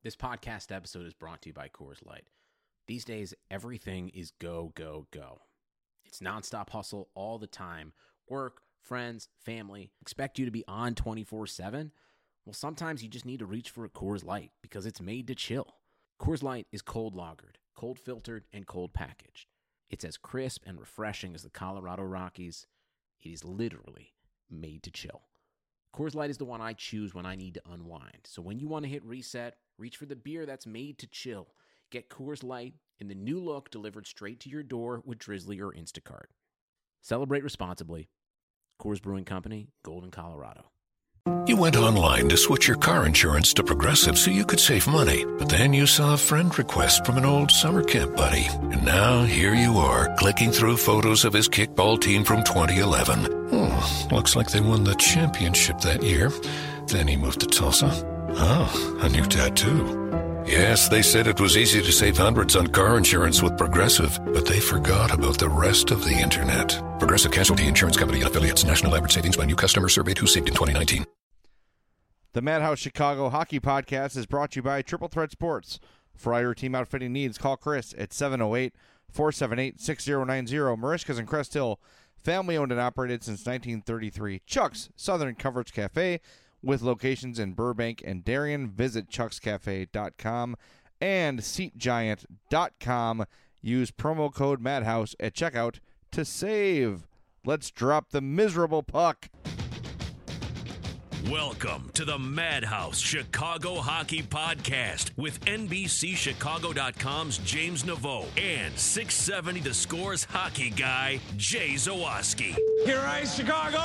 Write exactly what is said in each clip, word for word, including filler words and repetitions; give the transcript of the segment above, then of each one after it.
This podcast episode is brought to you by Coors Light. These days, everything is go, go, go. It's nonstop hustle all the time. Work, friends, family, expect you to be on twenty-four seven. Well, sometimes you just need to reach for a Coors Light because it's made to chill. Coors Light is cold lagered, cold filtered, and cold packaged. It's as crisp and refreshing as the Colorado Rockies. It is literally made to chill. Coors Light is the one I choose when I need to unwind. So when you want to hit reset, reach for the beer that's made to chill. Get Coors Light in the new look delivered straight to your door with Drizzly or Instacart. Celebrate responsibly. Coors Brewing Company, Golden, Colorado. You went online to switch your car insurance to Progressive so you could save money. But then you saw a friend request from an old summer camp buddy. And now here you are, clicking through photos of his kickball team from twenty eleven. Hmm, looks like they won the championship that year. Then he moved to Tulsa. Oh, a new tattoo. Yes, they said it was easy to save hundreds on car insurance with Progressive, but they forgot about the rest of the internet. Progressive Casualty Insurance Company and affiliates. National average savings by new customer surveyed who saved in twenty nineteen. The Madhouse Chicago Hockey Podcast is brought to you by Triple Threat Sports. For all your team outfitting needs, call Chris at seven oh eight, four seven eight, six zero nine zero. Marishka's in Crest Hill, family owned and operated since nineteen thirty-three. Chuck's Southern Comforts Cafe, with locations in Burbank and Darien. Visit chucks cafe dot com and seat giant dot com. Use promo code Madhouse at checkout to save. Let's drop the miserable puck. Welcome to the Madhouse Chicago Hockey Podcast with N B C Chicago dot com's James Naveau and six seventy The Score's hockey guy, Jay Zawaski. Here is Chicago!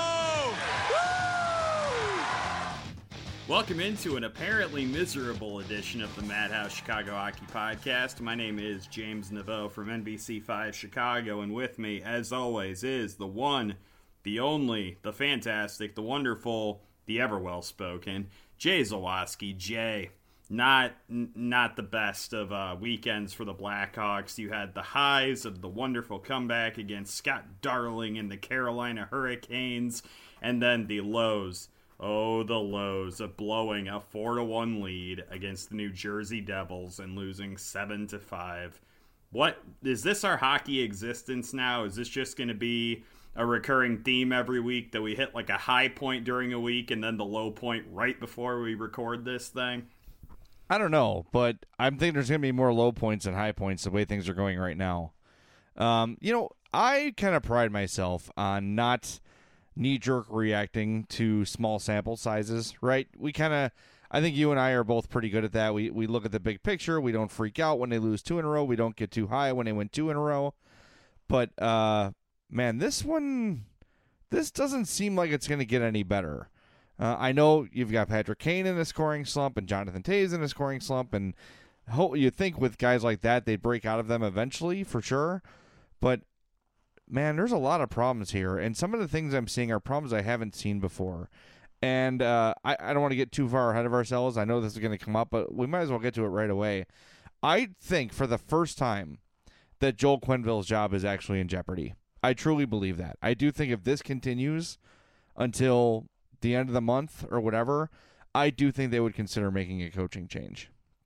Welcome into an apparently miserable edition of the Madhouse Chicago Hockey Podcast. My name is James Naveau from N B C five Chicago, and with me, as always, is the one, the only, the fantastic, the wonderful, the ever well-spoken, Jay Zawaski. Jay, not n- not the best of uh, weekends for the Blackhawks. You had the highs of the wonderful comeback against Scott Darling and the Carolina Hurricanes, and then the lows. Oh, the lows of blowing a four to one lead against the New Jersey Devils and losing seven to five. What, is this our hockey existence now? Is this just going to be a recurring theme every week that we hit like a high point during a week and then the low point right before we record this thing? I don't know, but I'm thinking there's going to be more low points than high points the way things are going right now. Um, you know, I kind of pride myself on not knee-jerk reacting to small sample sizes, right? We kind of, I think you and I are both pretty good at that. We we look at the big picture. We don't freak out when they lose two in a row. We don't get too high when they win two in a row. But, uh, man, this one, this doesn't seem like it's going to get any better. Uh, I know you've got Patrick Kane in a scoring slump and Jonathan Toews in a scoring slump, and ho- you'd think with guys like that, they'd break out of them eventually, for sure. But man, there's a lot of problems here, and some of the things I'm seeing are problems I haven't seen before. And uh, I, I don't want to get too far ahead of ourselves. I know this is going to come up, but we might as well get to it right away. I think for the first time that Joel Quenneville's job is actually in jeopardy. I truly believe that. I do think if this continues until the end of the month or whatever, I do think they would consider making a coaching change.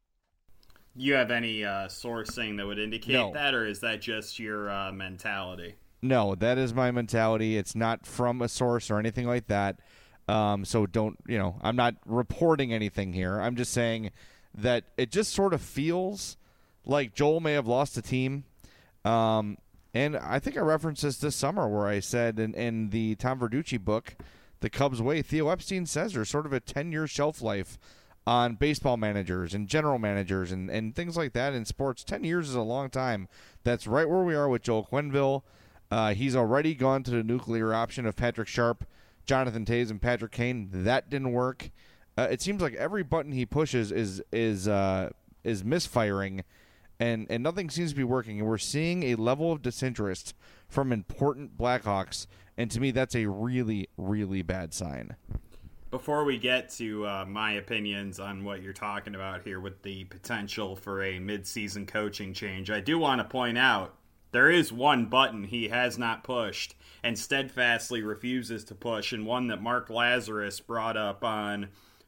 You have any uh, sourcing that would indicate No. that, or is that just your uh, mentality? No, that is my mentality. It's not from a source or anything like that. Um, so don't, you know, I'm not reporting anything here. I'm just saying that it just sort of feels like Joel may have lost the team. Um, and I think I referenced this this summer where I said in, in the Tom Verducci book, The Cubs Way, Theo Epstein says there's sort of a ten-year shelf life on baseball managers and general managers and, and things like that in sports. ten years is a long time. That's right where we are with Joel Quenneville. Uh, he's already gone to the nuclear option of Patrick Sharp, Jonathan Toews, and Patrick Kane. That didn't work. Uh, it seems like every button he pushes is is uh, is misfiring, and, and nothing seems to be working. And we're seeing a level of disinterest from important Blackhawks, and to me, that's a really, really bad sign. Before we get to uh, my opinions on what you're talking about here with the potential for a mid-season coaching change, I do want to point out there is one button he has not pushed and steadfastly refuses to push, and one that Mark Lazarus brought up on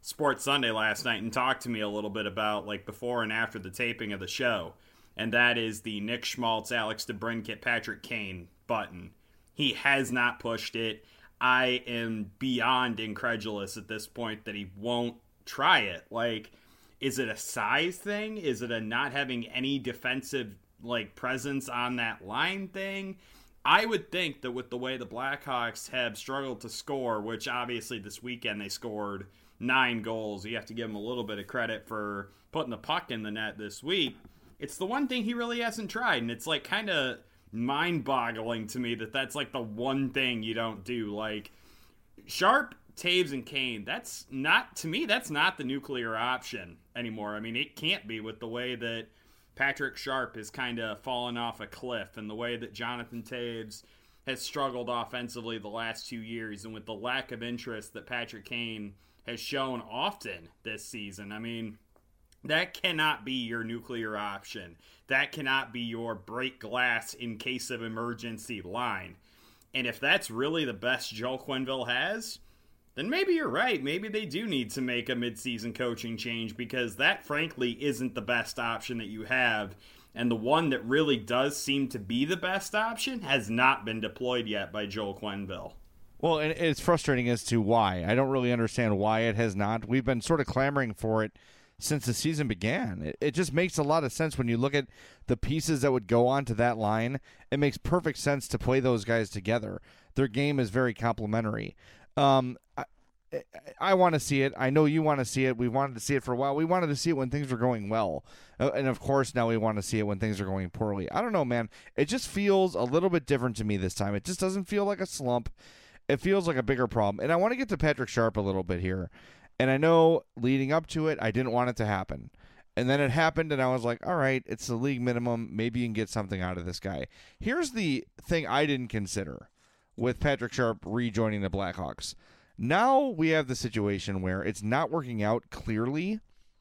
Sports Sunday last night and talked to me a little bit about like before and after the taping of the show, and that is the Nick Schmaltz, Alex DeBrincat, Patrick Kane button. He has not pushed it. I am beyond incredulous at this point that he won't try it. Like, is it a size thing? Is it a not having any defensive like presence on that line thing? I would think that with the way the Blackhawks have struggled to score, which obviously this weekend they scored nine goals. You have to give him a little bit of credit for putting the puck in the net this week. It's the one thing he really hasn't tried, and it's like kind of mind-boggling to me that that's like the one thing you don't do. Like Sharp, Taves, and Kane, that's not, to me, that's not the nuclear option anymore. I mean, it can't be with the way that Patrick Sharp has kind of fallen off a cliff and the way that Jonathan Taves has struggled offensively the last two years and with the lack of interest that Patrick Kane has shown often this season. I mean, that cannot be your nuclear option. That cannot be your break glass in case of emergency line. And if that's really the best Joel Quenneville has, then maybe you're right. Maybe they do need to make a midseason coaching change, because that, frankly, isn't the best option that you have. And the one that really does seem to be the best option has not been deployed yet by Joel Quenneville. Well, and it's frustrating as to why. I don't really understand why it has not. We've been sort of clamoring for it since the season began. It, it just makes a lot of sense when you look at the pieces that would go onto that line. It makes perfect sense to play those guys together. Their game is very complementary. Um, I, I want to see it. I know you want to see it. We wanted to see it for a while. We wanted to see it when things were going well. Uh, and, of course, now we want to see it when things are going poorly. I don't know, man. It just feels a little bit different to me this time. It just doesn't feel like a slump. It feels like a bigger problem. And I want to get to Patrick Sharp a little bit here. And I know leading up to it, I didn't want it to happen. And then it happened, and I was like, all right, it's the league minimum. Maybe you can get something out of this guy. Here's the thing I didn't consider with Patrick Sharp rejoining the Blackhawks. Now we have the situation where it's not working out clearly.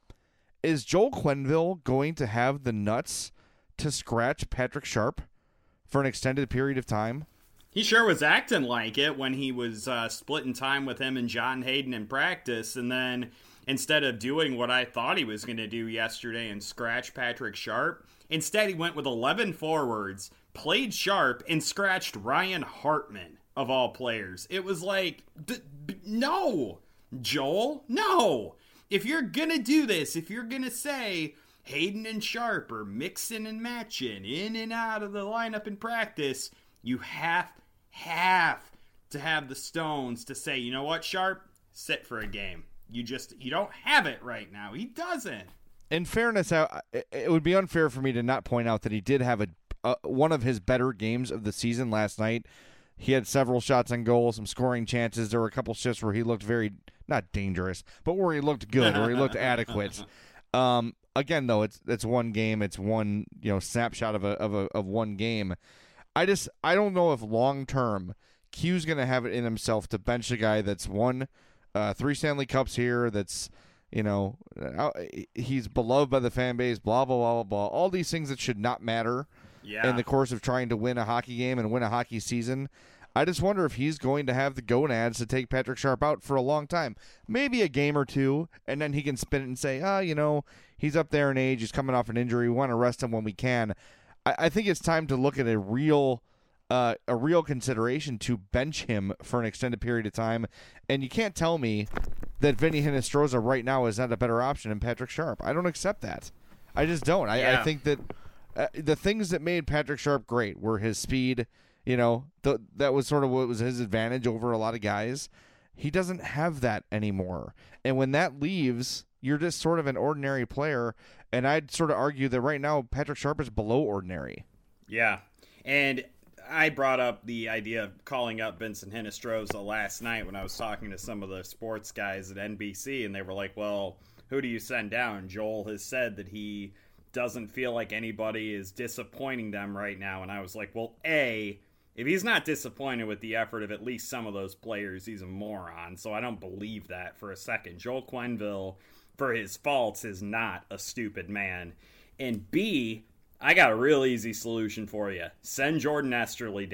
Is Joel Quenneville going to have the nuts to scratch Patrick Sharp for an extended period of time? He sure was acting like it when he was uh, splitting time with him and John Hayden in practice, and then instead of doing what I thought he was going to do yesterday and scratch Patrick Sharp, instead he went with eleven forwards, played Sharp, and scratched Ryan Hartman, of all players. It was like, d- b- no, Joel, no. If you're going to do this, if you're going to say Hayden and Sharp are mixing and matching in and out of the lineup in practice, you have have to have the stones to say, you know what, Sharp, sit for a game. You just, you don't have it right now. He doesn't. In fairness, I, it would be unfair for me to not point out that he did have a uh, one of his better games of the season last night. He had several shots on goal, some scoring chances. There were a couple shifts where he looked very, not dangerous, but where he looked good, where he looked adequate. Um, again, though, it's it's one game, it's one you know snapshot of a of a of one game. I just I don't know if long term Q's going to have it in himself to bench a guy that's won uh, three Stanley Cups here. That's you know he's beloved by the fan base. Blah blah blah blah blah. All these things that should not matter yeah. in the course of trying to win a hockey game and win a hockey season. I just wonder if he's going to have the gonads to take Patrick Sharp out for a long time. Maybe a game or two, and then he can spin it and say, ah, oh, you know, he's up there in age. He's coming off an injury. We want to rest him when we can. I think it's time to look at a real uh, a real consideration to bench him for an extended period of time. And you can't tell me that Vinny Hinostroza right now is not a better option than Patrick Sharp. I don't accept that. I just don't. I, yeah. I think that uh, the things that made Patrick Sharp great were his speed. You know, the, that was sort of what was his advantage over a lot of guys. He doesn't have that anymore. And when that leaves, you're just sort of an ordinary player. And I'd sort of argue that right now Patrick Sharp is below ordinary. Yeah. And I brought up the idea of calling up Vincent Hinostroza last night when I was talking to some of the sports guys at N B C, and they were like, well, who do you send down? Joel has said that he doesn't feel like anybody is disappointing them right now. And I was like, well, A, if he's not disappointed with the effort of at least some of those players, he's a moron. So I don't believe that for a second. Joel Quenneville, for his faults, is not a stupid man. And B, I got a real easy solution for you. Send Jordan Esterly down.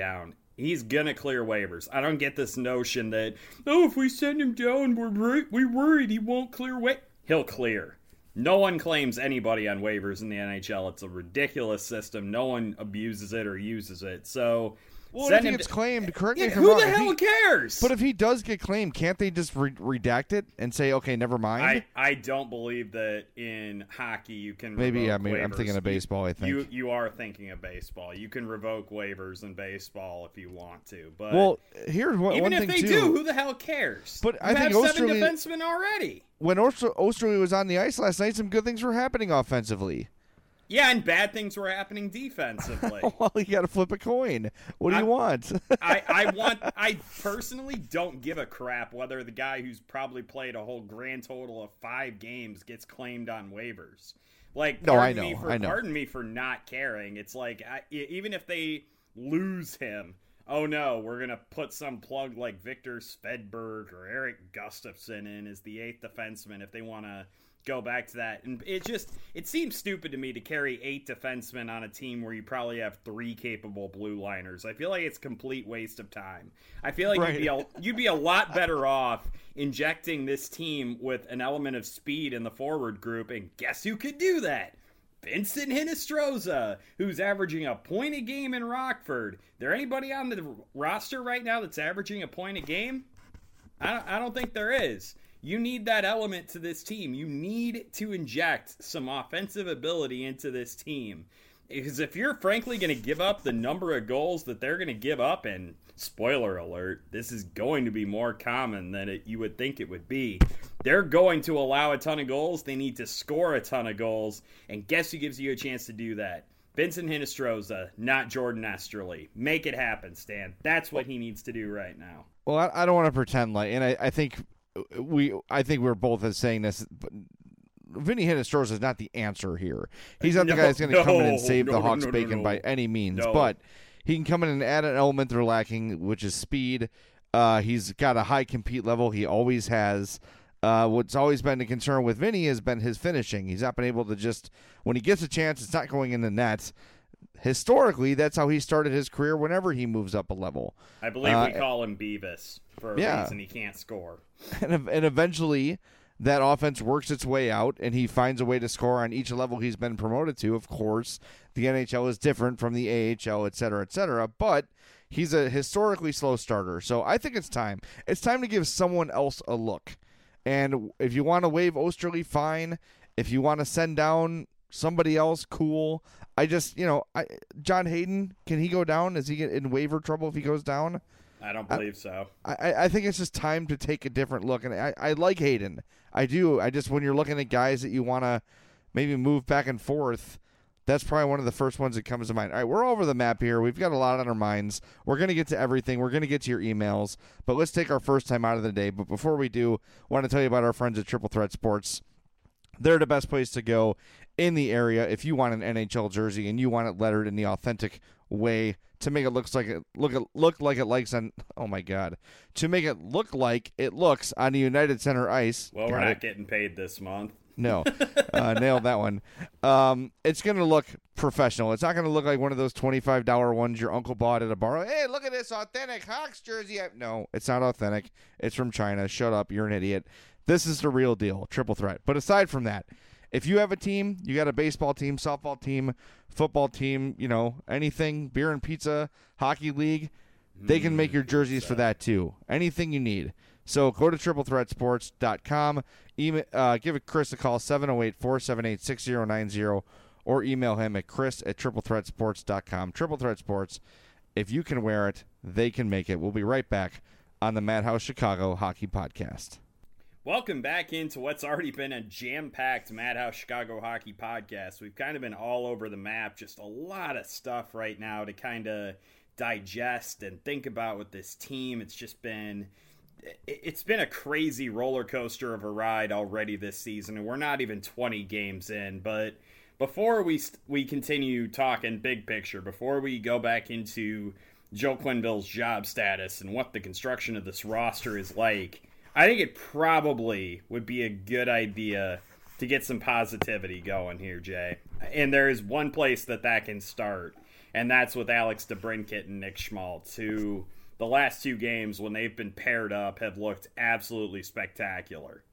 He's gonna clear waivers. I don't get this notion that, oh, if we send him down, we're wor- we're worried he won't clear wa-. He'll clear. No one claims anybody on waivers in the N H L. It's a ridiculous system. No one abuses it or uses it. So, well, send if he him gets to- claimed, correct me Yeah, if I'm who wrong. the if hell he, cares? But if he does get claimed, can't they just re- redact it and say, okay, never mind? I, I don't believe that in hockey you can Maybe revoke I mean, I'm waivers. thinking of baseball, I think. You you are thinking of baseball. You can revoke waivers in baseball if you want to. But well, here's one, even one if thing, they too. do, who the hell cares? But you I think have seven Osterley- defensemen already. When Oster- Osterley was on the ice last night, some good things were happening offensively. Yeah, and bad things were happening defensively. Well, you got to flip a coin. What do I- you want? I, I want I personally don't give a crap whether the guy who's probably played a whole grand total of five games gets claimed on waivers. Like, No, I pardon me know, for, I know. Pardon me for not caring. It's like I, e- even if they lose him, oh no, we're gonna put some plug like Victor Svedberg or Eric Gustafsson in as the eighth defenseman if they want to go back to that. And it just it seems stupid to me to carry eight defensemen on a team where you probably have three capable blue liners. I feel like it's a complete waste of time. I feel like Right. you'd be a, you'd be a lot better off injecting this team with an element of speed in the forward group, and guess who could do that? Vincent Hinostroza, who's averaging a point a game in Rockford. There anybody on the roster right now that's averaging a point a game? I don't, I don't think there is. You need that element to this team. You need to inject some offensive ability into this team. Because if you're frankly going to give up the number of goals that they're going to give up, and spoiler alert, this is going to be more common than it, you would think it would be. They're going to allow a ton of goals. They need to score a ton of goals. And guess who gives you a chance to do that? Vincent Hinostroza, not Jordan Esterly. Make it happen, Stan. That's what he needs to do right now. Well, I, I don't want to pretend like, and I, I think we, I think we're both as saying this. But Vinny Hinostroza is not the answer here. He's not the No, guy that's going to come in and no, save no, the no, Hawks' no, no, bacon no. by any means, No. but he can come in and add an element they're lacking, which is speed. Uh, he's got a high compete level. He always has. Uh, what's always been a concern with Vinny has been his finishing. He's not been able to just, when he gets a chance, it's not going in the net. Historically, that's how he started his career whenever he moves up a level. I believe Uh, we call him Beavis for a yeah. reason he can't score. And, ev- and eventually, that offense works its way out, and he finds a way to score on each level he's been promoted to. Of course, the N H L is different from the A H L, et cetera, et cetera, but he's a historically slow starter. So I think it's time. It's time to give someone else a look. And if you want to waive Osterley, fine. If you want to send down somebody else, cool. I just, you know, I, John Hayden, can he go down? Is he get in waiver trouble if he goes down? I don't believe so. I, I think it's just time to take a different look. And I, I like Hayden. I do. I just, when you're looking at guys that you want to maybe move back and forth, that's probably one of the first ones that comes to mind. All right, we're all over the map here. We've got a lot on our minds. We're going to get to everything. We're going to get to your emails. But let's take our first time out of the day. But before we do, I want to tell you about our friends at Triple Threat Sports. They're the best place to go in the area if you want an N H L jersey and you want it lettered in the authentic way to make it looks like it look look like it likes on oh my god to make it look like it looks on the United Center ice. Well, Got we're not it. getting paid this month. No, uh, nailed that one. Um, it's going to look professional. It's not going to look like one of those twenty-five dollar ones your uncle bought at a bar. Hey, look at this authentic Hawks jersey. I- no, it's not authentic. It's from China. Shut up. You're an idiot. This is the real deal. Triple Threat. But aside from that, if you have a team, you got a baseball team, softball team, football team, you know, anything, beer and pizza, hockey league, they can make your jerseys for that too. Anything you need. So go to triple threat sports dot com, email, uh, give Chris a call, seven oh eight, four seven eight, six oh nine oh, or email him at chris at triple threat sports dot com. Triple Threat Sports, if you can wear it, they can make it. We'll be right back on the Madhouse Chicago Hockey Podcast. Welcome back into what's already been a jam-packed Madhouse Chicago Hockey Podcast. We've kind of been all over the map, just a lot of stuff right now to kind of digest and think about with this team. It's just been... It's been a crazy roller coaster of a ride already this season, and we're not even twenty games in. But before we we continue talking big picture, before we go back into Joe Quenneville's job status and what the construction of this roster is like, I think it probably would be a good idea to get some positivity going here, Jay. And there is one place that that can start, and that's with Alex DeBrincat and Nick Schmaltz, who the last two games when they've been paired up have looked absolutely spectacular.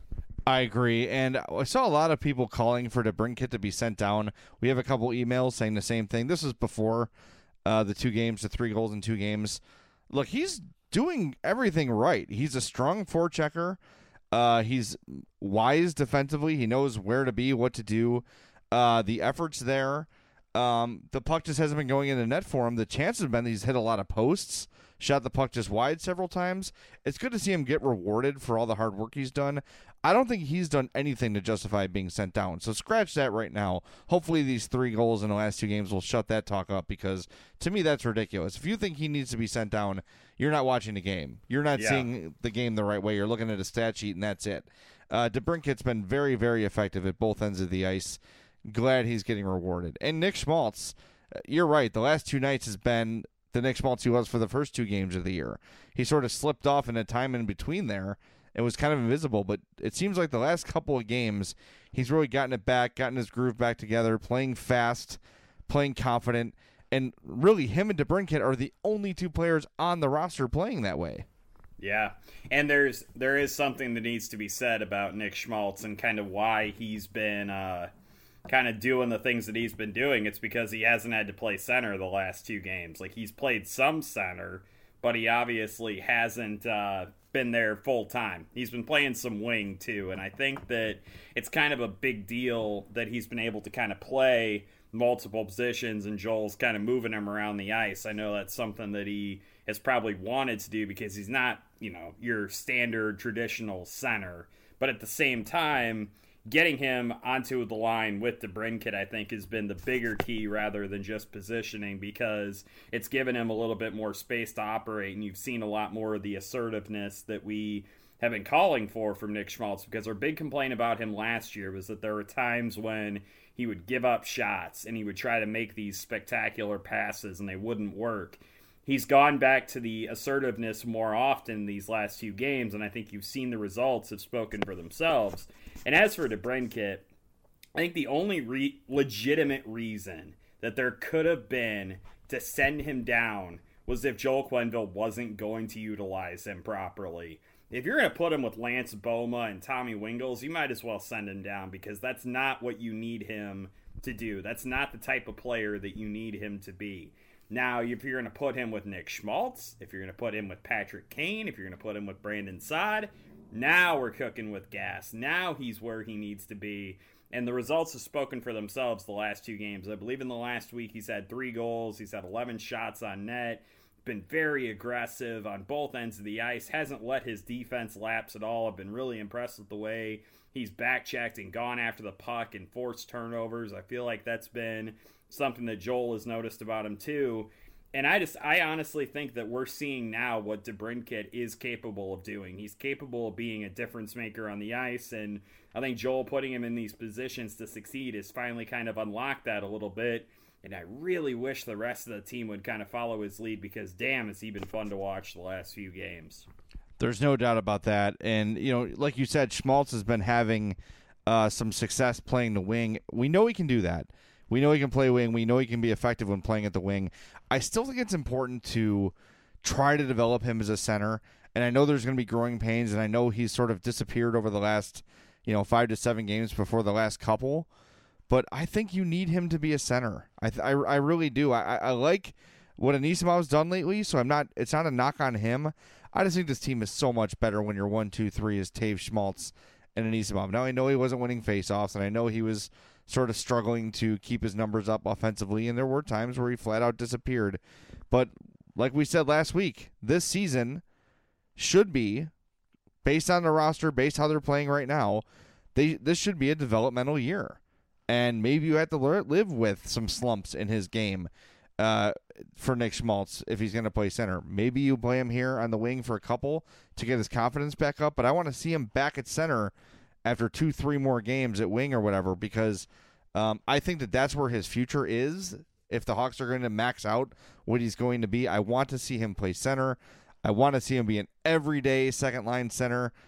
I agree, and I saw a lot of people calling for DeBrincat to be sent down. We have a couple emails saying the same thing. This was before uh, the two games, the three goals in two games. Look, he's doing everything right. He's a strong forechecker. Uh, he's wise defensively. He knows where to be, what to do. Uh, the effort's there. Um, the puck just hasn't been going in the net for him. The chances have been he's hit a lot of posts, shot the puck just wide several times. It's good to see him get rewarded for all the hard work he's done. I don't think he's done anything to justify being sent down. So scratch that right now. Hopefully these three goals in the last two games will shut that talk up, because to me that's ridiculous. If you think he needs to be sent down, you're not watching the game. You're not yeah. seeing the game the right way. You're looking at a stat sheet, and that's it. Uh, DeBrincat's been very, very effective at both ends of the ice. Glad he's getting rewarded. And Nick Schmaltz, you're right. The last two nights has been the Nick Schmaltz he was for the first two games of the year. He sort of slipped off in a time in between there. It was kind of invisible, but it seems like the last couple of games, he's really gotten it back, gotten his groove back together, playing fast, playing confident, and really him and DeBrincat are the only two players on the roster playing that way. Yeah, and there's there is something that needs to be said about Nick Schmaltz and kind of why he's been uh, kind of doing the things that he's been doing. It's because he hasn't had to play center the last two games. Like, he's played some center, but he obviously hasn't uh, been there full time. He's been playing some wing too, and I think that it's kind of a big deal that he's been able to kind of play multiple positions, and Joel's kind of moving him around the ice. I know that's something that he has probably wanted to do because he's not, you know, your standard traditional center, but at the same time, getting him onto the line with DeBrincat, I think, has been the bigger key rather than just positioning, because it's given him a little bit more space to operate, and you've seen a lot more of the assertiveness that we have been calling for from Nick Schmaltz, because our big complaint about him last year was that there were times when he would give up shots and he would try to make these spectacular passes and they wouldn't work. He's gone back to the assertiveness more often these last few games, and I think you've seen the results have spoken for themselves. And as for DeBrincat, I think the only re- legitimate reason that there could have been to send him down was if Joel Quenneville wasn't going to utilize him properly. If you're going to put him with Lance Boma and Tommy Wingels, you might as well send him down, because that's not what you need him to do. That's not the type of player that you need him to be. Now, if you're going to put him with Nick Schmaltz, if you're going to put him with Patrick Kane, if you're going to put him with Brandon Saad, now we're cooking with gas. Now he's where he needs to be. And the results have spoken for themselves the last two games. I believe in the last week he's had three goals. He's had eleven shots on net. Been very aggressive on both ends of the ice. Hasn't let his defense lapse at all. I've been really impressed with the way he's back-checked and gone after the puck and forced turnovers. I feel like that's been something that Joel has noticed about him too. And I just, I honestly think that we're seeing now what DeBrincat is capable of doing. He's capable of being a difference maker on the ice, and I think Joel putting him in these positions to succeed has finally kind of unlocked that a little bit. And I really wish the rest of the team would kind of follow his lead, because damn, has he been fun to watch the last few games. There's no doubt about that. And, you know, like you said, Schmaltz has been having uh, some success playing the wing. We know he can do that. We know he can play wing. We know he can be effective when playing at the wing. I still think it's important to try to develop him as a center. And I know there's going to be growing pains, and I know he's sort of disappeared over the last, you know, five to seven games before the last couple. But I think you need him to be a center. I th- I, I really do. I, I like what Anisimov's done lately, so I'm not. It's not a knock on him. I just think this team is so much better when your one, two, three is Taves, Schmaltz, and Anisimov. Now I know he wasn't winning faceoffs, and I know he was sort of struggling to keep his numbers up offensively, and there were times where he flat out disappeared. But like we said last week, this season should be, based on the roster, based how they're playing right now, they this should be a developmental year. And maybe you have to learn, live with some slumps in his game uh, for Nick Schmaltz if he's going to play center. Maybe you play him here on the wing for a couple to get his confidence back up, but I want to see him back at center after two, three more games at wing or whatever, because um, I think that that's where his future is. If the Hawks are going to max out what he's going to be, I want to see him play center. I want to see him be an everyday second-line center.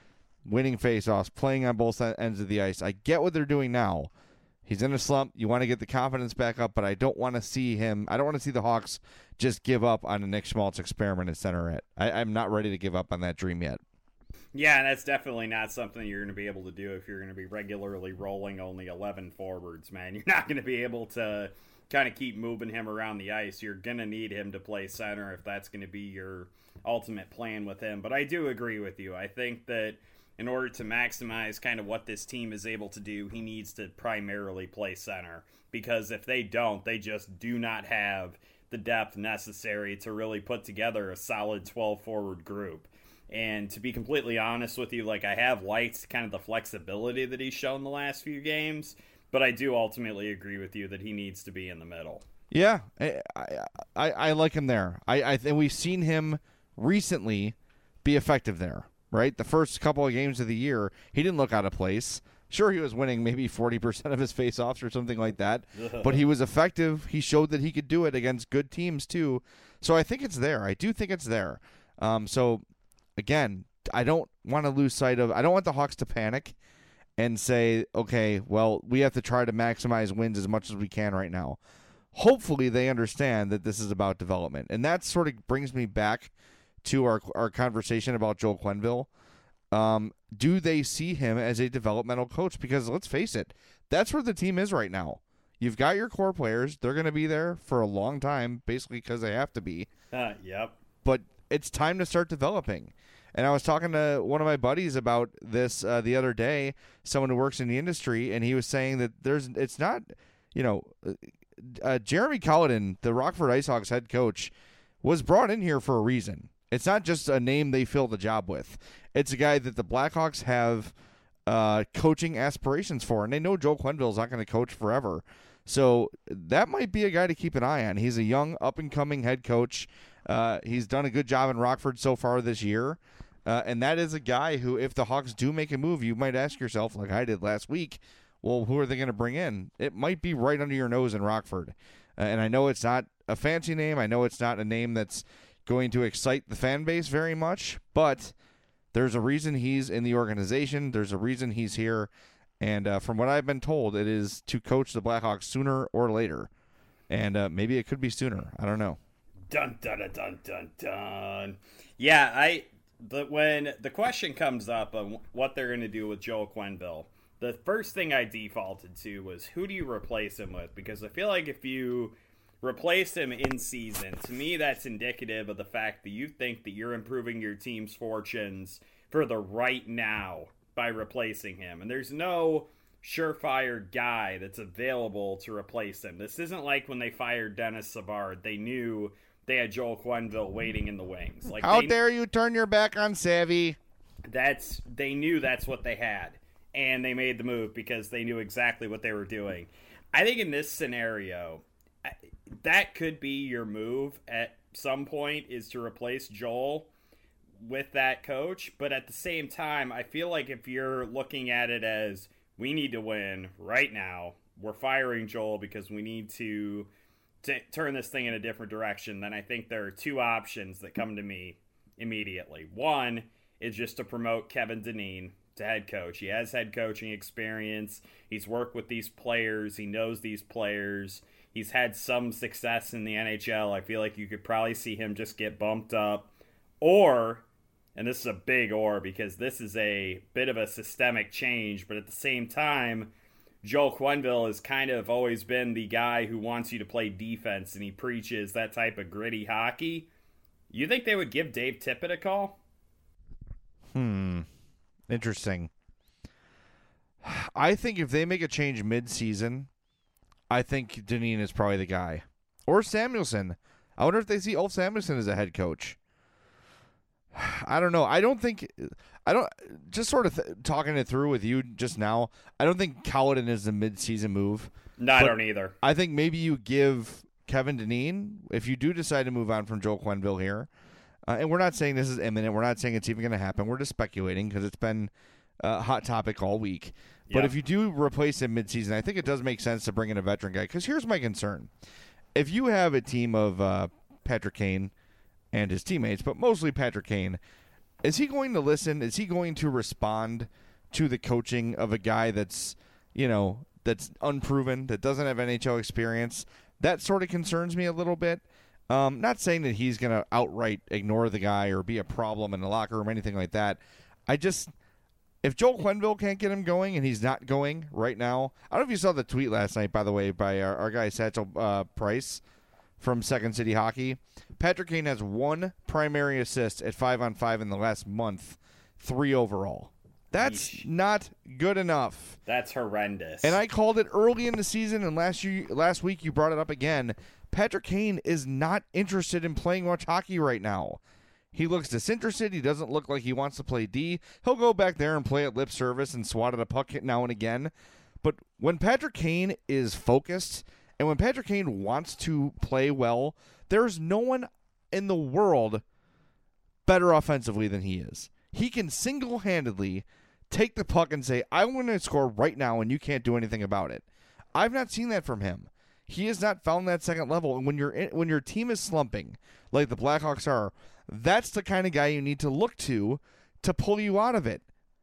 winning faceoffs, playing on both ends of the ice. I get what they're doing now. He's in a slump. You want to get the confidence back up, but I don't want to see him. I don't want to see the Hawks just give up on a Nick Schmaltz experiment at center. Yet I, I'm not ready to give up on that dream yet. Yeah, and that's definitely not something you're going to be able to do if you're going to be regularly rolling only eleven forwards, man. You're not going to be able to kind of keep moving him around the ice. You're going to need him to play center if that's going to be your ultimate plan with him. But I do agree with you. I think that in order to maximize kind of what this team is able to do, he needs to primarily play center. Because if they don't, they just do not have the depth necessary to really put together a solid twelve-forward group. And to be completely honest with you, like, I have liked kind of the flexibility that he's shown the last few games, but I do ultimately agree with you that he needs to be in the middle. Yeah, I I, I like him there. I, I think we've seen him recently be effective there. Right? The first couple of games of the year, he didn't look out of place. Sure, he was winning maybe forty percent of his faceoffs or something like that, but he was effective. He showed that he could do it against good teams, too. So I think it's there. I do think it's there. Um, so, again, I don't want to lose sight of – I don't want the Hawks to panic and say, okay, well, we have to try to maximize wins as much as we can right now. Hopefully they understand that this is about development. And that sort of brings me back to our our conversation about Joel Quenneville. Um, do they see him as a developmental coach? Because let's face it, that's where the team is right now. You've got your core players. They're going to be there for a long time, basically because they have to be. Uh, yep. But it's time to start developing. And I was talking to one of my buddies about this uh, the other day, someone who works in the industry, and he was saying that there's it's not, you know, uh, Jeremy Colliton, the Rockford IceHogs head coach, was brought in here for a reason. It's not just a name they fill the job with. It's a guy that the Blackhawks have uh, coaching aspirations for, and they know Joel Quenneville is not going to coach forever. So that might be a guy to keep an eye on. He's a young, up-and-coming head coach. Uh, he's done a good job in Rockford so far this year, uh, and that is a guy who, if the Hawks do make a move, you might ask yourself, like I did last week, well, who are they going to bring in? It might be right under your nose in Rockford. Uh, and I know it's not a fancy name. I know it's not a name that's going to excite the fan base very much, but there's a reason he's in the organization. There's a reason he's here, and uh, from what I've been told, it is to coach the Blackhawks sooner or later, and uh, maybe it could be sooner. I don't know. Dun dun dun dun dun dun. Yeah, I the when the question comes up on what they're going to do with Joel Quenneville, the first thing I defaulted to was who do you replace him with? Because I feel like if you replace him in season, to me that's indicative of the fact that you think that you're improving your team's fortunes for the right now by replacing him. And there's no surefire guy that's available to replace him. This isn't like when they fired Dennis Savard. They knew they had Joel Quenneville waiting in the wings. Like, how they, dare you turn your back on Savvy? That's they knew that's what they had. And they made the move because they knew exactly what they were doing. I think in this scenario, that could be your move at some point, is to replace Joel with that coach. But at the same time, I feel like if you're looking at it as we need to win right now, we're firing Joel because we need to t- turn this thing in a different direction, then I think there are two options that come to me immediately. One is just to promote Kevin Dineen to head coach. He has head coaching experience. He's worked with these players. He knows these players. He's had some success in the N H L. I feel like you could probably see him just get bumped up. Or, and this is a big or because this is a bit of a systemic change, but at the same time, Joel Quenneville has kind of always been the guy who wants you to play defense, and he preaches that type of gritty hockey. You think they would give Dave Tippett a call? Hmm. Interesting. I think if they make a change mid-season, I think Dineen is probably the guy. Or Samuelson. I wonder if they see Ulf Samuelson as a head coach. I don't know. I don't think... I don't... Just sort of th- talking it through with you just now, I don't think Colliton is the mid-season move. No, I don't either. I think maybe you give Kevin Dineen, if you do decide to move on from Joel Quenneville here, uh, and we're not saying this is imminent, we're not saying it's even going to happen, we're just speculating because it's been a hot topic all week. But Yep. if you do replace him midseason, I think it does make sense to bring in a veteran guy. Because here's my concern. If you have a team of uh, Patrick Kane and his teammates, but mostly Patrick Kane, is he going to listen? Is he going to respond to the coaching of a guy that's, you know, that's unproven, that doesn't have N H L experience? That sort of concerns me a little bit. Um, not saying that he's going to outright ignore the guy or be a problem in the locker room or anything like that. I just, if Joel Quenneville can't get him going, and he's not going right now. I don't know if you saw the tweet last night, by the way, by our, our guy Satchel uh, Price from Second City Hockey. Patrick Kane has one primary assist at five on five in the last month, three overall. That's Yeesh. Not good enough. That's horrendous. And I called it early in the season, and last year, last week you brought it up again. Patrick Kane is not interested in playing much hockey right now. He looks disinterested. He doesn't look like he wants to play D. He'll go back there and play at lip service and swat at a puck now and again. But when Patrick Kane is focused and when Patrick Kane wants to play well, there's no one in the world better offensively than he is. He can single-handedly take the puck and say, I want to score right now, and you can't do anything about it. I've not seen that from him. He has not found that second level. And when you're in, when your team is slumping, like the Blackhawks are, that's the kind of guy you need to look to to pull you out of it.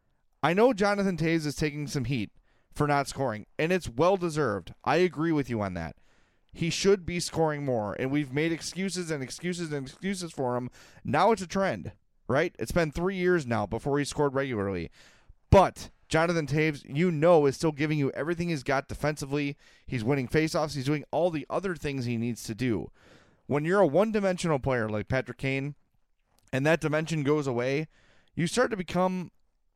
I know Jonathan Toews is taking some heat for not scoring, and it's well-deserved. I agree with you on that. He should be scoring more, and we've made excuses and excuses and excuses for him. Now it's a trend, right? It's been three years now before he scored regularly. But Jonathan Toews, you know, is still giving you everything he's got defensively. He's winning faceoffs. He's doing all the other things he needs to do. When you're a one-dimensional player like Patrick Kane, and that dimension goes away, you start to become,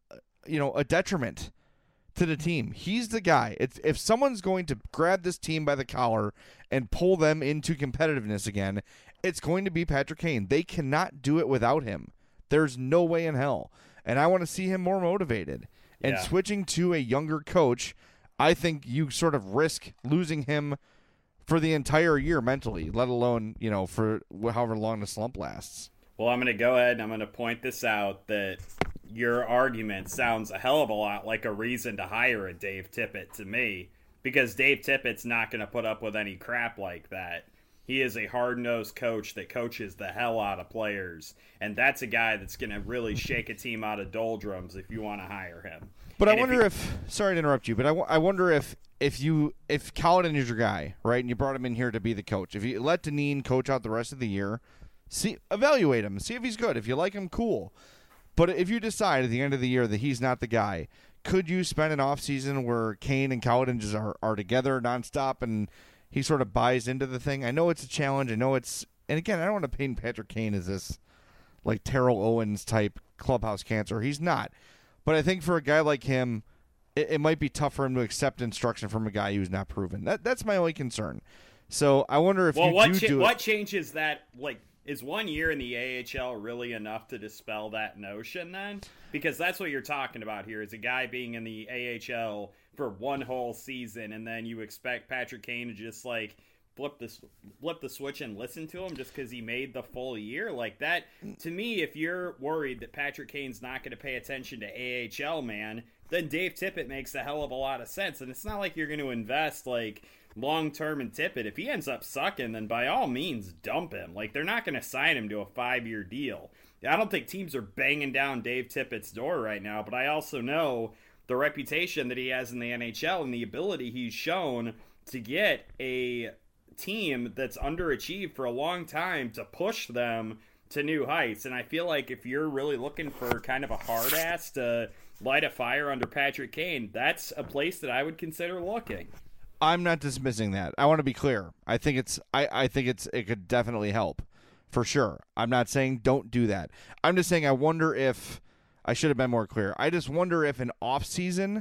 you know, a detriment to the team. He's the guy. It's, if someone's going to grab this team by the collar and pull them into competitiveness again, it's going to be Patrick Kane. They cannot do it without him. There's no way in hell. And I want to see him more motivated. And yeah. switching to a younger coach, I think you sort of risk losing him for the entire year mentally, let alone, you know, for however long the slump lasts. Well, I'm going to go ahead and I'm going to point this out, that your argument sounds a hell of a lot like a reason to hire a Dave Tippett to me, because Dave Tippett's not going to put up with any crap like that. He is a hard-nosed coach that coaches the hell out of players, and that's a guy that's going to really shake a team out of doldrums if you want to hire him. But and I wonder if, he, if – sorry to interrupt you, but I, w- I wonder if if you – if Kaladin is your guy, right, and you brought him in here to be the coach, if you let Dineen coach out the rest of the year, see evaluate him, see if he's good. If you like him, cool. But if you decide at the end of the year that he's not the guy, could you spend an offseason where Kane and Kaladin just are, are together nonstop and – he sort of buys into the thing? I know it's a challenge. I know it's, and again, I don't want to paint Patrick Kane as this like Terrell Owens type clubhouse cancer. He's not. But I think for a guy like him, it, it might be tough for him to accept instruction from a guy who's not proven. That that's my only concern. So I wonder if well, you what do cha- do what it. changes that? Like, is one year in the A H L really enough to dispel that notion then? Because that's what you're talking about here, is a guy being in the A H L for one whole season, and then you expect Patrick Kane to just like flip the flip the switch and listen to him just because he made the full year. Like that, to me, if you're worried that Patrick Kane's not going to pay attention to A H L, man, then Dave Tippett makes a hell of a lot of sense. And it's not like you're going to invest like long term in Tippett. If he ends up sucking, then by all means dump him. Like, they're not going to sign him to a five year deal. I don't think teams are banging down Dave Tippett's door right now, but I also know the reputation that he has in the N H L and the ability he's shown to get a team that's underachieved for a long time to push them to new heights. And I feel like if you're really looking for kind of a hard ass to light a fire under Patrick Kane, that's a place that I would consider looking. I'm not dismissing that. I want to be clear. I think it's I, I think it's it could definitely help. For sure. I'm not saying don't do that. I'm just saying I wonder if I should have been more clear. I just wonder if an off season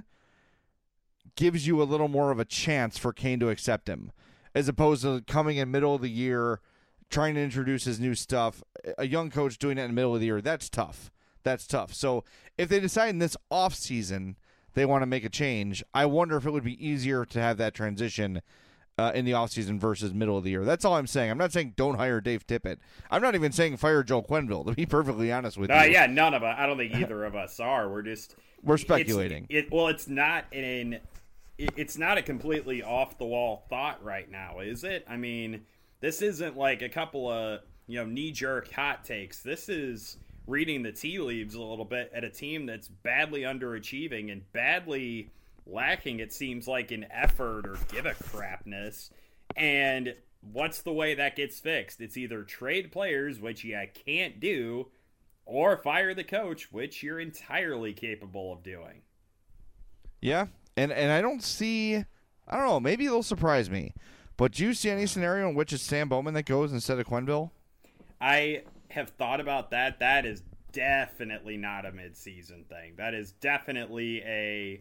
gives you a little more of a chance for Kane to accept him, as opposed to coming in middle of the year, trying to introduce his new stuff. A young coach doing it in the middle of the year, that's tough. That's tough. So if they decide in this off season they want to make a change, I wonder if it would be easier to have that transition Uh, in the offseason versus middle of the year. That's all I'm saying. I'm not saying don't hire Dave Tippett. I'm not even saying fire Joel Quenneville, to be perfectly honest with uh, you. Yeah, none of us. I don't think either of us are. We're just... We're speculating. It, well, it's not an... It, it's not a completely off-the-wall thought right now, is it? I mean, this isn't like a couple of, you know, knee-jerk hot takes. This is reading the tea leaves a little bit at a team that's badly underachieving and badly lacking, it seems like, in effort or give a crapness. And what's the way that gets fixed? It's either trade players, which you can't do, or fire the coach, which you're entirely capable of doing. Yeah, and and I don't see, I don't know, maybe it'll surprise me, but do you see any scenario in which it's Stan Bowman that goes instead of Quenneville? I have thought about that. That is definitely not a midseason thing. That is definitely a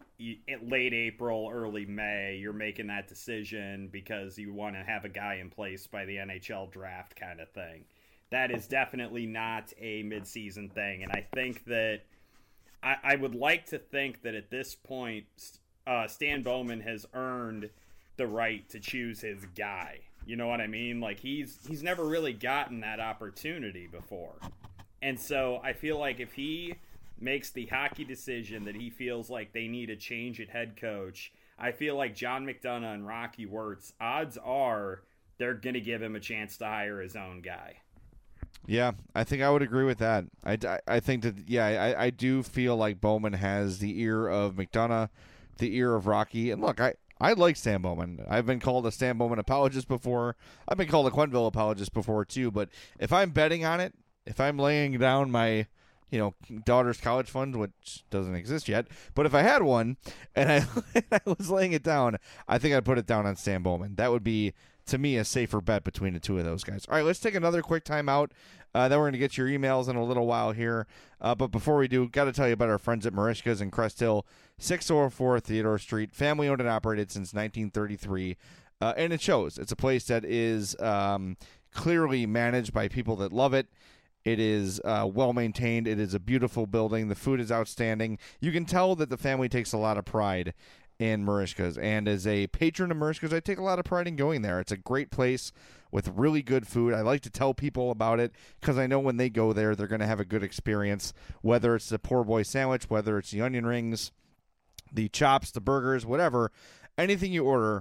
late April, early May. You're making that decision because you want to have a guy in place by the N H L draft kind of thing. That is definitely not a midseason thing. And I think that I, I would like to think that at this point, uh, Stan Bowman has earned the right to choose his guy. You know what I mean? Like, he's he's never really gotten that opportunity before. And so I feel like if he makes the hockey decision that he feels like they need a change at head coach, I feel like John McDonough and Rocky Wirtz, odds are they're going to give him a chance to hire his own guy. Yeah, I think I would agree with that. I, I, I think that, yeah, I, I do feel like Bowman has the ear of McDonough, the ear of Rocky. And look, I, I like Stan Bowman. I've been called a Stan Bowman apologist before. I've been called a Quenneville apologist before too. But if I'm betting on it, if I'm laying down my, you know, daughter's college fund, which doesn't exist yet, but if I had one and I, I was laying it down, I think I'd put it down on Stan Bowman. That would be, to me, a safer bet between the two of those guys. All right, let's take another quick timeout. Uh, then we're going to get your emails in a little while here. Uh, but before we do, got to tell you about our friends at Merichka's in Crest Hill, six oh four Theodore Street, family owned and operated since nineteen thirty-three. Uh, and it shows. It's a place that is um, clearly managed by people that love it. It is uh, well-maintained. It is a beautiful building. The food is outstanding. You can tell that the family takes a lot of pride in Merichka's. And as a patron of Merichka's, I take a lot of pride in going there. It's a great place with really good food. I like to tell people about it because I know when they go there, they're going to have a good experience, whether it's the poor boy sandwich, whether it's the onion rings, the chops, the burgers, whatever. Anything you order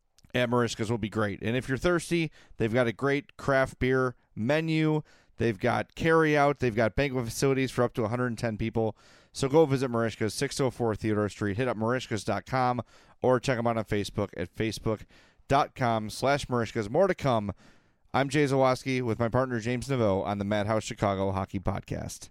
at Merichka's will be great. And if you're thirsty, they've got a great craft beer menu. They've got carry-out. They've got banquet facilities for up to one hundred ten people. So go visit Merichka's, six oh four Theodore Street. Hit up Merichka's dot com or check them out on Facebook at facebook.com slash Merichka's. More to come. I'm Jay Zawoski with my partner James Naveau on the Madhouse Chicago Hockey Podcast.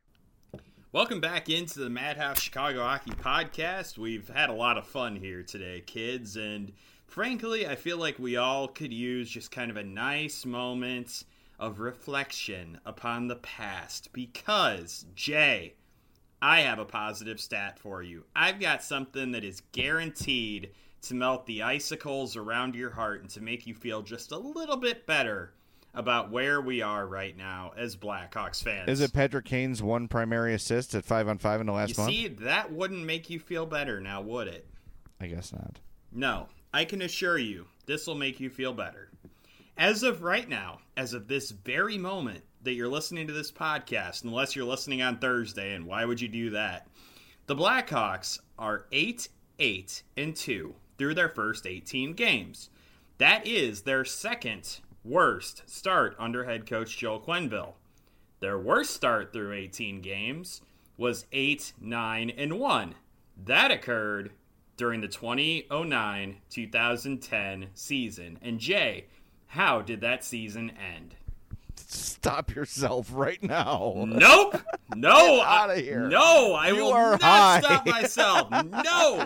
Welcome back into the Madhouse Chicago Hockey Podcast. We've had a lot of fun here today, kids, and frankly, I feel like we all could use just kind of a nice moment of reflection upon the past because, Jay, I have a positive stat for you. I've got something that is guaranteed to melt the icicles around your heart and to make you feel just a little bit better about where we are right now as Blackhawks fans. Is it Patrick Kane's one primary assist at five on five in the last you month? You see, that wouldn't make you feel better now, would it? I guess not. No, I can assure you this will make you feel better. As of right now, as of this very moment that you're listening to this podcast, unless you're listening on Thursday, and why would you do that? The Blackhawks are eight eight and two through their first eighteen games. That is their second worst start under head coach Joe Quenneville. Their worst start through eighteen games was eight nine and one. That occurred during the twenty oh nine twenty ten season. And Jay, how did that season end? Stop yourself right now. Nope. No. Get out of here. No, I You will are not high. stop myself. No.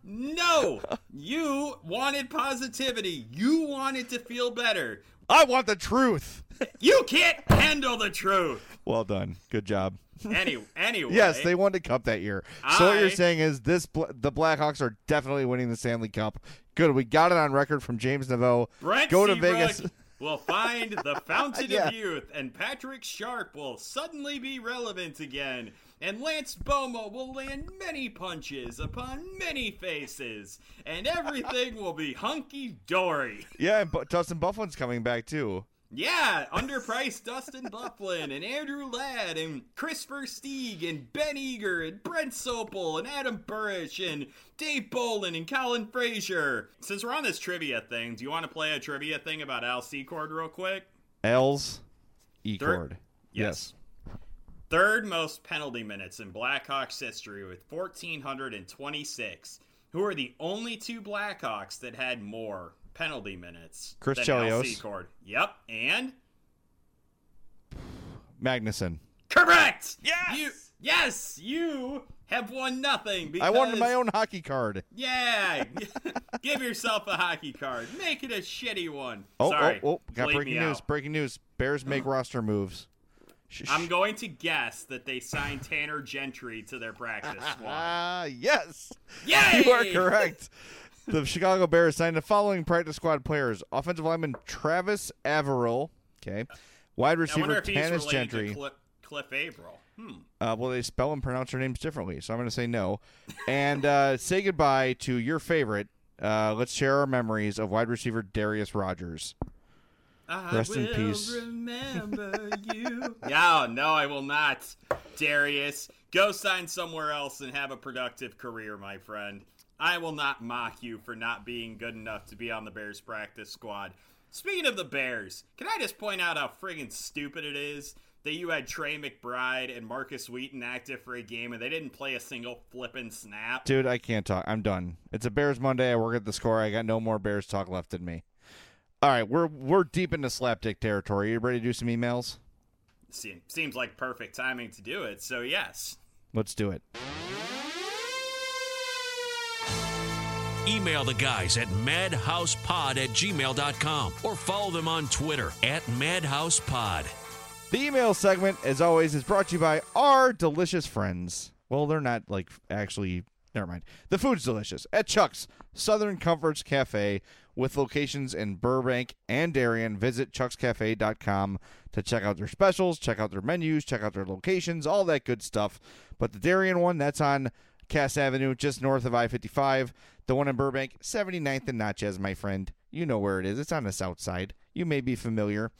No. You wanted positivity. You wanted to feel better. I want the truth. You can't handle the truth. Well done. Good job. Any, anyway. Yes, they won the cup that year. So what I- you're saying is this: the Blackhawks are definitely winning the Stanley Cup. Good. We got it on record from James Naveau. Brent Go to Seabrook Vegas. will find the fountain Yeah. of youth, and Patrick Sharp will suddenly be relevant again. And Lance Bomo will land many punches upon many faces, and everything will be hunky-dory. Yeah, and Bu- Dustin Bufflin's coming back too. Yeah, underpriced Dustin Bufflin and Andrew Ladd and Chris Versteeg and Ben Eager and Brent Sopel and Adam Burrish and Dave Bolin and Colin Frazier. Since we're on this trivia thing, do you want to play a trivia thing about Al Secord real quick? L's Thir- E-Cord. Yes. Third most penalty minutes in Blackhawks history with one thousand four hundred twenty-six. Who are the only two Blackhawks that had more penalty minutes Chris than Chelios. L C Cord? Yep, and? Magnuson. Correct! Yes! You, yes, you have won nothing. Because, I wanted my own hockey card. Yeah, give yourself a hockey card. Make it a shitty one. Oh, Sorry, oh, oh, got bleep breaking me news. out. Breaking news. Bears make roster moves. Shh, I'm shh. going to guess that they signed Tanner Gentry to their practice squad. Ah, yes. Yay! You are correct. The Chicago Bears signed the following practice squad players. Offensive lineman Travis Averill. Okay. Wide I wonder receiver if he's Tanis related Gentry. to Cliff, Cliff Averill. Hmm. Uh, well, they spell and pronounce their names differently, so I'm going to say no. And uh, say goodbye to your favorite. Uh, let's share our memories of wide receiver Darius Rogers. I Rest in will peace. remember you. Yeah, no, I will not. Darius, go sign somewhere else and have a productive career, my friend. I will not mock you for not being good enough to be on the Bears practice squad. Speaking of the Bears, can I just point out how friggin' stupid it is that you had Trey McBride and Marcus Wheaton active for a game and they didn't play a single flippin' snap? Dude, I can't talk. I'm done. It's a Bears Monday. I work at the Score. I got no more Bears talk left in me. All right, we're we're deep into slapdick territory. You ready to do some emails? Se- Seems like perfect timing to do it, so yes. Let's do it. Email the guys at madhousepod at gmail dot com or follow them on Twitter at madhousepod. The email segment, as always, is brought to you by our delicious friends. Well, they're not, like, actually... Never mind. The food's delicious at Chuck's Southern Comforts Cafe with locations in Burbank and Darien. Visit chucks cafe dot com to check out their specials, check out their menus, check out their locations, all that good stuff. But the Darien one, that's on Cass Avenue, just north of I fifty-five. The one in Burbank, seventy-ninth and Natchez, my friend. You know where it is. It's on the south side. You may be familiar.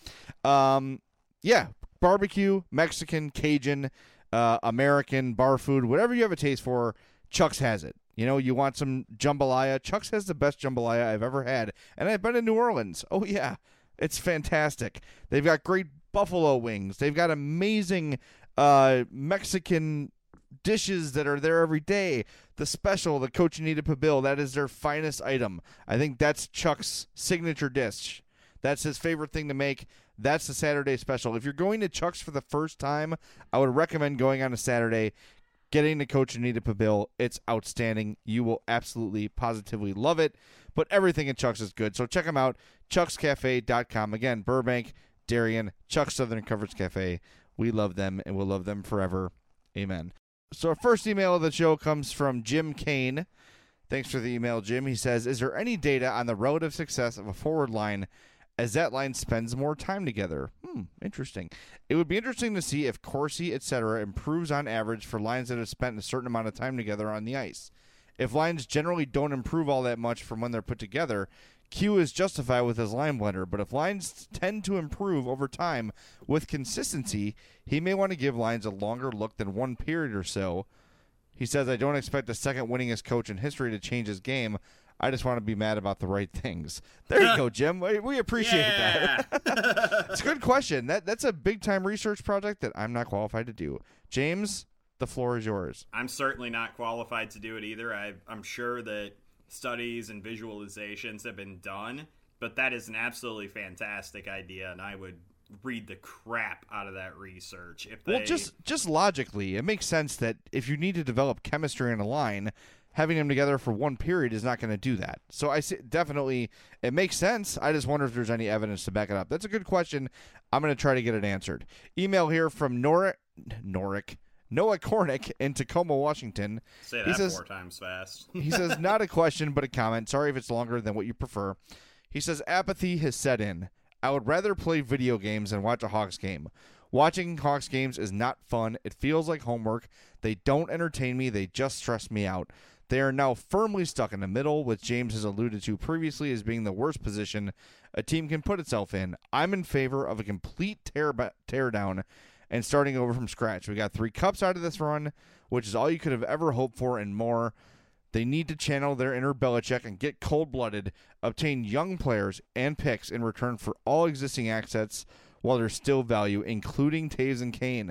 Um, yeah, barbecue, Mexican, Cajun, uh, American, bar food, whatever you have a taste for, Chuck's has it. You know, you want some jambalaya. Chuck's has the best jambalaya I've ever had. And I've been in New Orleans. Oh, yeah. It's fantastic. They've got great buffalo wings. They've got amazing uh, Mexican dishes that are there every day. The special, the Cochinita Pibil, that is their finest item. I think that's Chuck's signature dish. That's his favorite thing to make. That's the Saturday special. If you're going to Chuck's for the first time, I would recommend going on a Saturday, getting the Cochinita Pibil. It's outstanding. You will absolutely, positively love it. But everything at Chuck's is good. So check them out, chucks cafe dot com. Again, Burbank, Darien, Chuck's Southern Comforts Cafe. We love them and we'll love them forever. Amen. So our first email of the show comes from Jim Kane. Thanks for the email, Jim. He says, is there any data on the relative success of a forward line as that line spends more time together? Hmm, interesting. It would be interesting to see if Corsi, et cetera, improves on average for lines that have spent a certain amount of time together on the ice. If lines generally don't improve all that much from when they're put together, Q is justified with his line blender, but if lines tend to improve over time with consistency, he may want to give lines a longer look than one period or so. He says, I don't expect the second winningest coach in history to change his game. I just want to be mad about the right things. There you go, Jim. We, we appreciate Yeah. that. It's a good question. That That's a big-time research project that I'm not qualified to do. James, the floor is yours. I'm certainly not qualified to do it either. I, I'm sure that studies and visualizations have been done, but that is an absolutely fantastic idea, and I would read the crap out of that research. If they... Well, just just logically, it makes sense that if you need to develop chemistry in a line, having them together for one period is not going to do that. So I see, definitely, it makes sense. I just wonder if there's any evidence to back it up. That's a good question. I'm going to try to get it answered. Email here from Nor- Norick, Noah Kornick in Tacoma, Washington. Say that he says, four times fast. he says, not a question, but a comment. Sorry if it's longer than what you prefer. He says, apathy has set in. I would rather play video games than watch a Hawks game. Watching Hawks games is not fun. It feels like homework. They don't entertain me. They just stress me out. They are now firmly stuck in the middle, which James has alluded to previously as being the worst position a team can put itself in. I'm in favor of a complete tear, tear down and starting over from scratch. We got three cups out of this run, which is all you could have ever hoped for and more. They need to channel their inner Belichick and get cold-blooded, obtain young players and picks in return for all existing assets while there's still value, including Taves and Kane.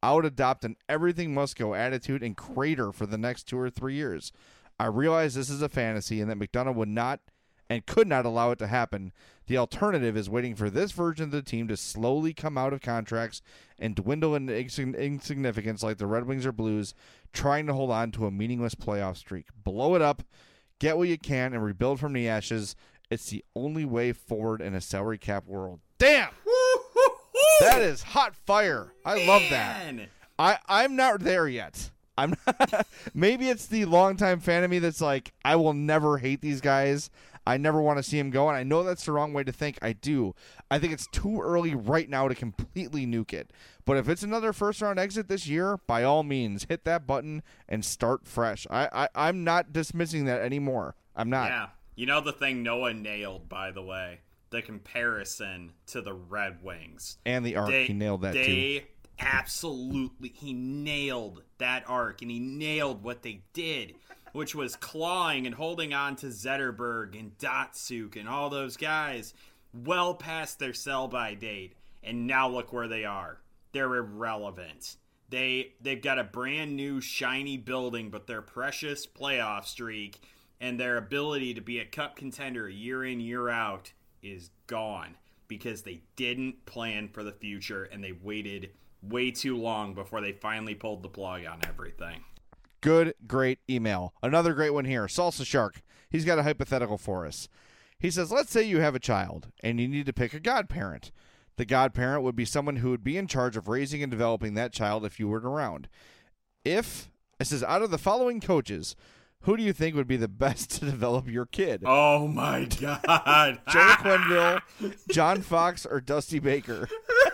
I would adopt an everything must go attitude and crater for the next two or three years. I realize this is a fantasy and that McDonough would not and could not allow it to happen. The alternative is waiting for this version of the team to slowly come out of contracts and dwindle into insig- insignificance like the Red Wings or Blues, trying to hold on to a meaningless playoff streak. Blow it up, get what you can, and rebuild from the ashes. It's the only way forward in a salary cap world. Damn! That is hot fire. I Man. love that. I, I'm not there yet. I'm not, maybe it's the longtime fan of me that's like, I will never hate these guys. I never want to see him go, and I know that's the wrong way to think. I do. I think it's too early right now to completely nuke it. But if it's another first-round exit this year, by all means, hit that button and start fresh. I, I, I'm not dismissing that anymore. I'm not. Yeah. You know the thing Noah nailed, by the way? The comparison to the Red Wings. And the arc, they, he nailed that they too. Absolutely. He nailed that arc, and he nailed what they did, which was clawing and holding on to Zetterberg and Datsuk and all those guys well past their sell-by date. And now look where they are. They're irrelevant. They, they've got a brand new shiny building, but their precious playoff streak and their ability to be a cup contender year in, year out is gone because they didn't plan for the future and they waited way too long before they finally pulled the plug on everything. Good, great email. Another great one here. Salsa Shark. He's got a hypothetical for us. He says, let's say you have a child and you need to pick a godparent. The godparent would be someone who would be in charge of raising and developing that child if you weren't around. If, it says, out of the following coaches, who do you think would be the best to develop your kid? Oh, my God. Joe Quenneville, John Fox, or Dusty Baker?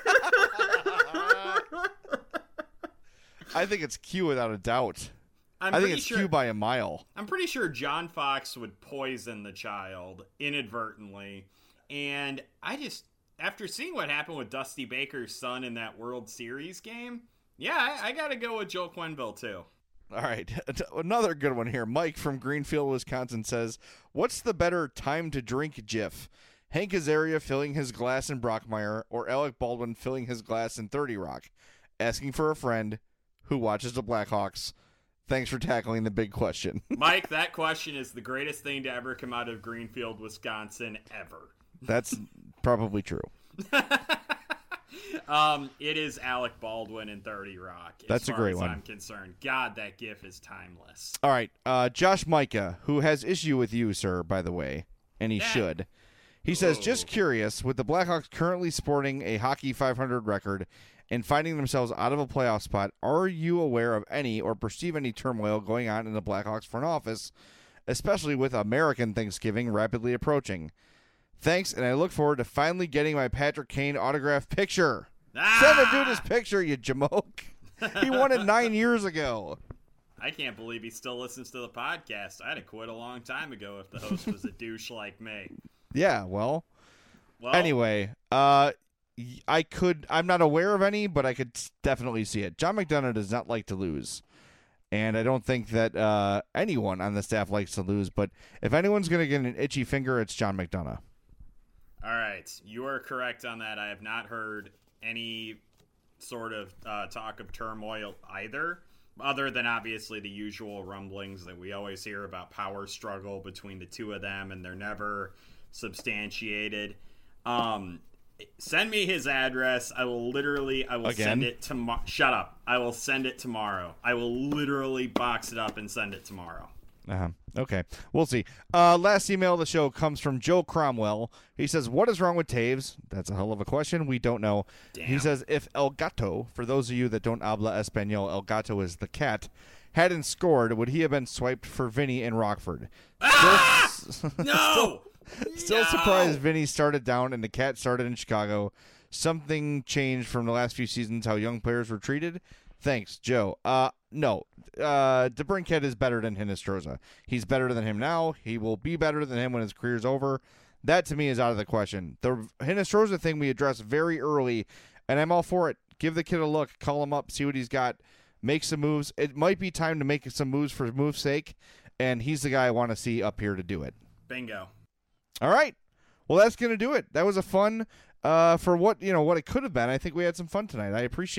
I think it's Q without a doubt. I'm I think it's sure, Q by a mile. I'm pretty sure John Fox would poison the child inadvertently. And I just, after seeing what happened with Dusty Baker's son in that World Series game, yeah, I, I got to go with Joe Quenneville, too. All right. Another good one here. Mike from Greenfield, Wisconsin says, what's the better time to drink GIF? Hank Azaria filling his glass in Brockmire or Alec Baldwin filling his glass in thirty Rock? Asking for a friend who watches the Blackhawks. Thanks for tackling the big question. Mike, that question is the greatest thing to ever come out of Greenfield, Wisconsin, ever. That's probably true. um, it is Alec Baldwin in thirty Rock. As That's a far great as one. I'm concerned. God, that gif is timeless. All right. Uh, Josh Micah, who has issue with you, sir, by the way, and he Yeah. should. He says, Whoa. just curious, with the Blackhawks currently sporting a hockey five hundred record and finding themselves out of a playoff spot, are you aware of any or perceive any turmoil going on in the Blackhawks front office, especially with American Thanksgiving rapidly approaching? Thanks, and I look forward to finally getting my Patrick Kane autographed picture. Ah! Send the dude his picture, you jamoke. He won it nine years ago. I can't believe he still listens to the podcast. I'd have quit a long time ago if the host was a douche like me. Yeah, well, Well, anyway, uh, y- I could, I'm not aware of any, but I could s- definitely see it. John McDonough does not like to lose. And I don't think that uh, anyone on the staff likes to lose. But if anyone's going to get an itchy finger, it's John McDonough. all right, you are correct on that. I have not heard any sort of uh, talk of turmoil either, other than obviously the usual rumblings that we always hear about power struggle between the two of them, and they're never substantiated. Um, send me his address. I will literally, I will Again? send it tomorrow. Shut up. I will send it tomorrow. I will literally box it up and send it tomorrow. Uh-huh. Okay, we'll see. Uh, last email of the show comes from Joe Cromwell. He says, what is wrong with Taves? That's a hell of a question. We don't know. Damn. He says, if El Gato, for those of you that don't habla Espanol, El Gato is the cat, hadn't scored, would he have been swiped for Vinny in Rockford? Ah! Still, No! still No! surprised Vinny started down and the cat started in Chicago. Something changed from the last few seasons how young players were treated? Thanks, Joe. Uh, no. Uh, DeBrincat is better than Hinestroza. He's better than him now. He will be better than him when his career's over. That, to me, is out of the question. The Hinestroza thing we addressed very early, and I'm all for it. Give the kid a look. Call him up. See what he's got. Make some moves. It might be time to make some moves for move's sake, and he's the guy I want to see up here to do it. Bingo. All right. Well, that's going to do it. That was a fun uh, for what, you know, what it could have been. I think we had some fun tonight. I appreciate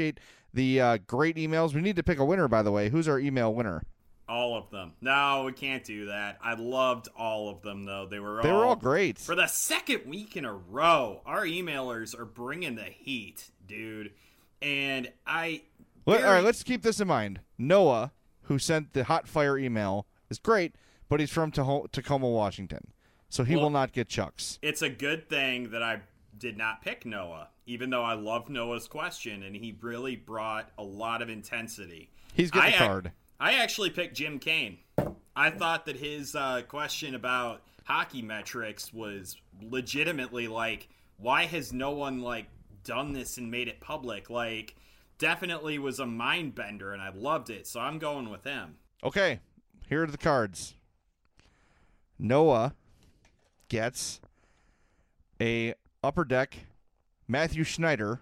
the uh, great emails. We need to pick a winner, by the way. Who's our email winner? All of them. No, we can't do that. I loved all of them, though. They were all, they were all great. For the second week in a row, our emailers are bringing the heat, dude. And I... Well, very... All right, let's keep this in mind. Noah, who sent the hot fire email, is great, but he's from Taho- Tacoma, Washington. So he well, will not get Chucks. It's a good thing that I did not pick Noah, even though I love Noah's question, and he really brought a lot of intensity. He's getting I, a card. I actually picked Jim Kane. I thought that his uh, question about hockey metrics was legitimately like, why has no one like done this and made it public? Like, definitely was a mind bender, and I loved it. So I'm going with him. Okay, here are the cards. Noah gets a Upper Deck Matthew Schneider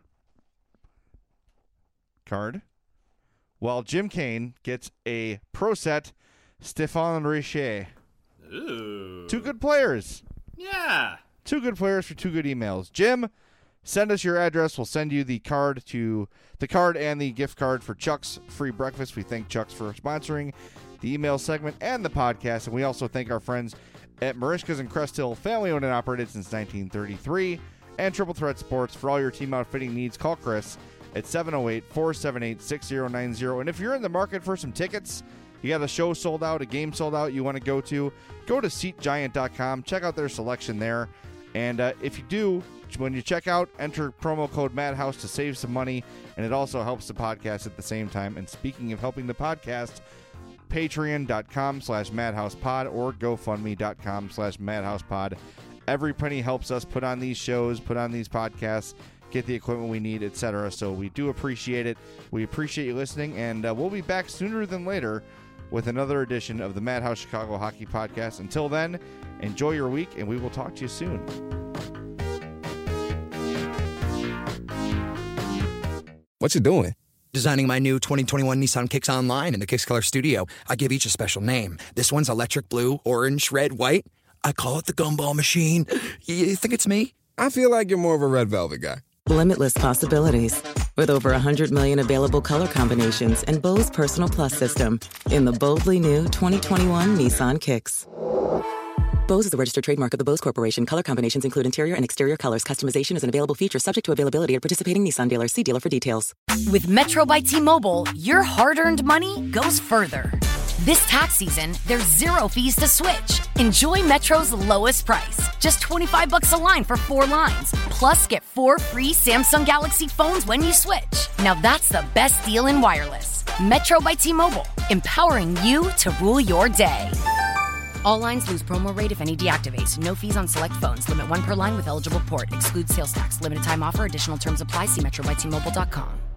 card, while Jim Kane gets a Pro Set Stéphane Richer. Ooh. Two good players. Yeah. Two good players for two good emails. Jim, send us your address. We'll send you the card to the card and the gift card for Chuck's Free Breakfast. We thank Chuck's for sponsoring the email segment and the podcast, and we also thank our friends at Marishka's and Crest Hill, family owned and operated since nineteen thirty-three, and Triple Threat Sports. For all your team outfitting needs, call Chris at seven oh eight, four seven eight, six oh nine oh. And if you're in the market for some tickets, you got a show sold out, a game sold out you want to go to, go to seat giant dot com. Check out their selection there. And uh, if you do, when you check out, enter promo code Madhouse to save some money, and it also helps the podcast at the same time. And speaking of helping the podcast, patreon dot com slash madhousepod or gofundme dot com slash madhousepod. Every penny helps us put on these shows, put on these podcasts, get the equipment we need, et cetera. So we do appreciate it. We appreciate you listening, and uh, we'll be back sooner than later with another edition of the Madhouse Chicago Hockey Podcast. Until then, enjoy your week, and we will talk to you soon. What you doing? Designing my new twenty twenty-one Nissan Kicks online in the Kicks Color Studio. I give each a special name. This one's electric blue, orange, red, white. I call it the Gumball Machine. You think it's me? I feel like you're more of a red velvet guy. Limitless possibilities. With over one hundred million available color combinations and Bose Personal Plus system in the boldly new twenty twenty-one Nissan Kicks. Bose is a registered trademark of the Bose Corporation. Color combinations include interior and exterior colors. Customization is an available feature subject to availability at participating Nissan dealers. See dealer for details. With Metro by T-Mobile, your hard-earned money goes further. This tax season, there's zero fees to switch. Enjoy Metro's lowest price. Just twenty-five bucks a line for four lines. Plus, get four free Samsung Galaxy phones when you switch. Now that's the best deal in wireless. Metro by T-Mobile, empowering you to rule your day. All lines lose promo rate if any deactivates. No fees on select phones. Limit one per line with eligible port. Excludes sales tax. Limited time offer. Additional terms apply. See metro by T Mobile dot com.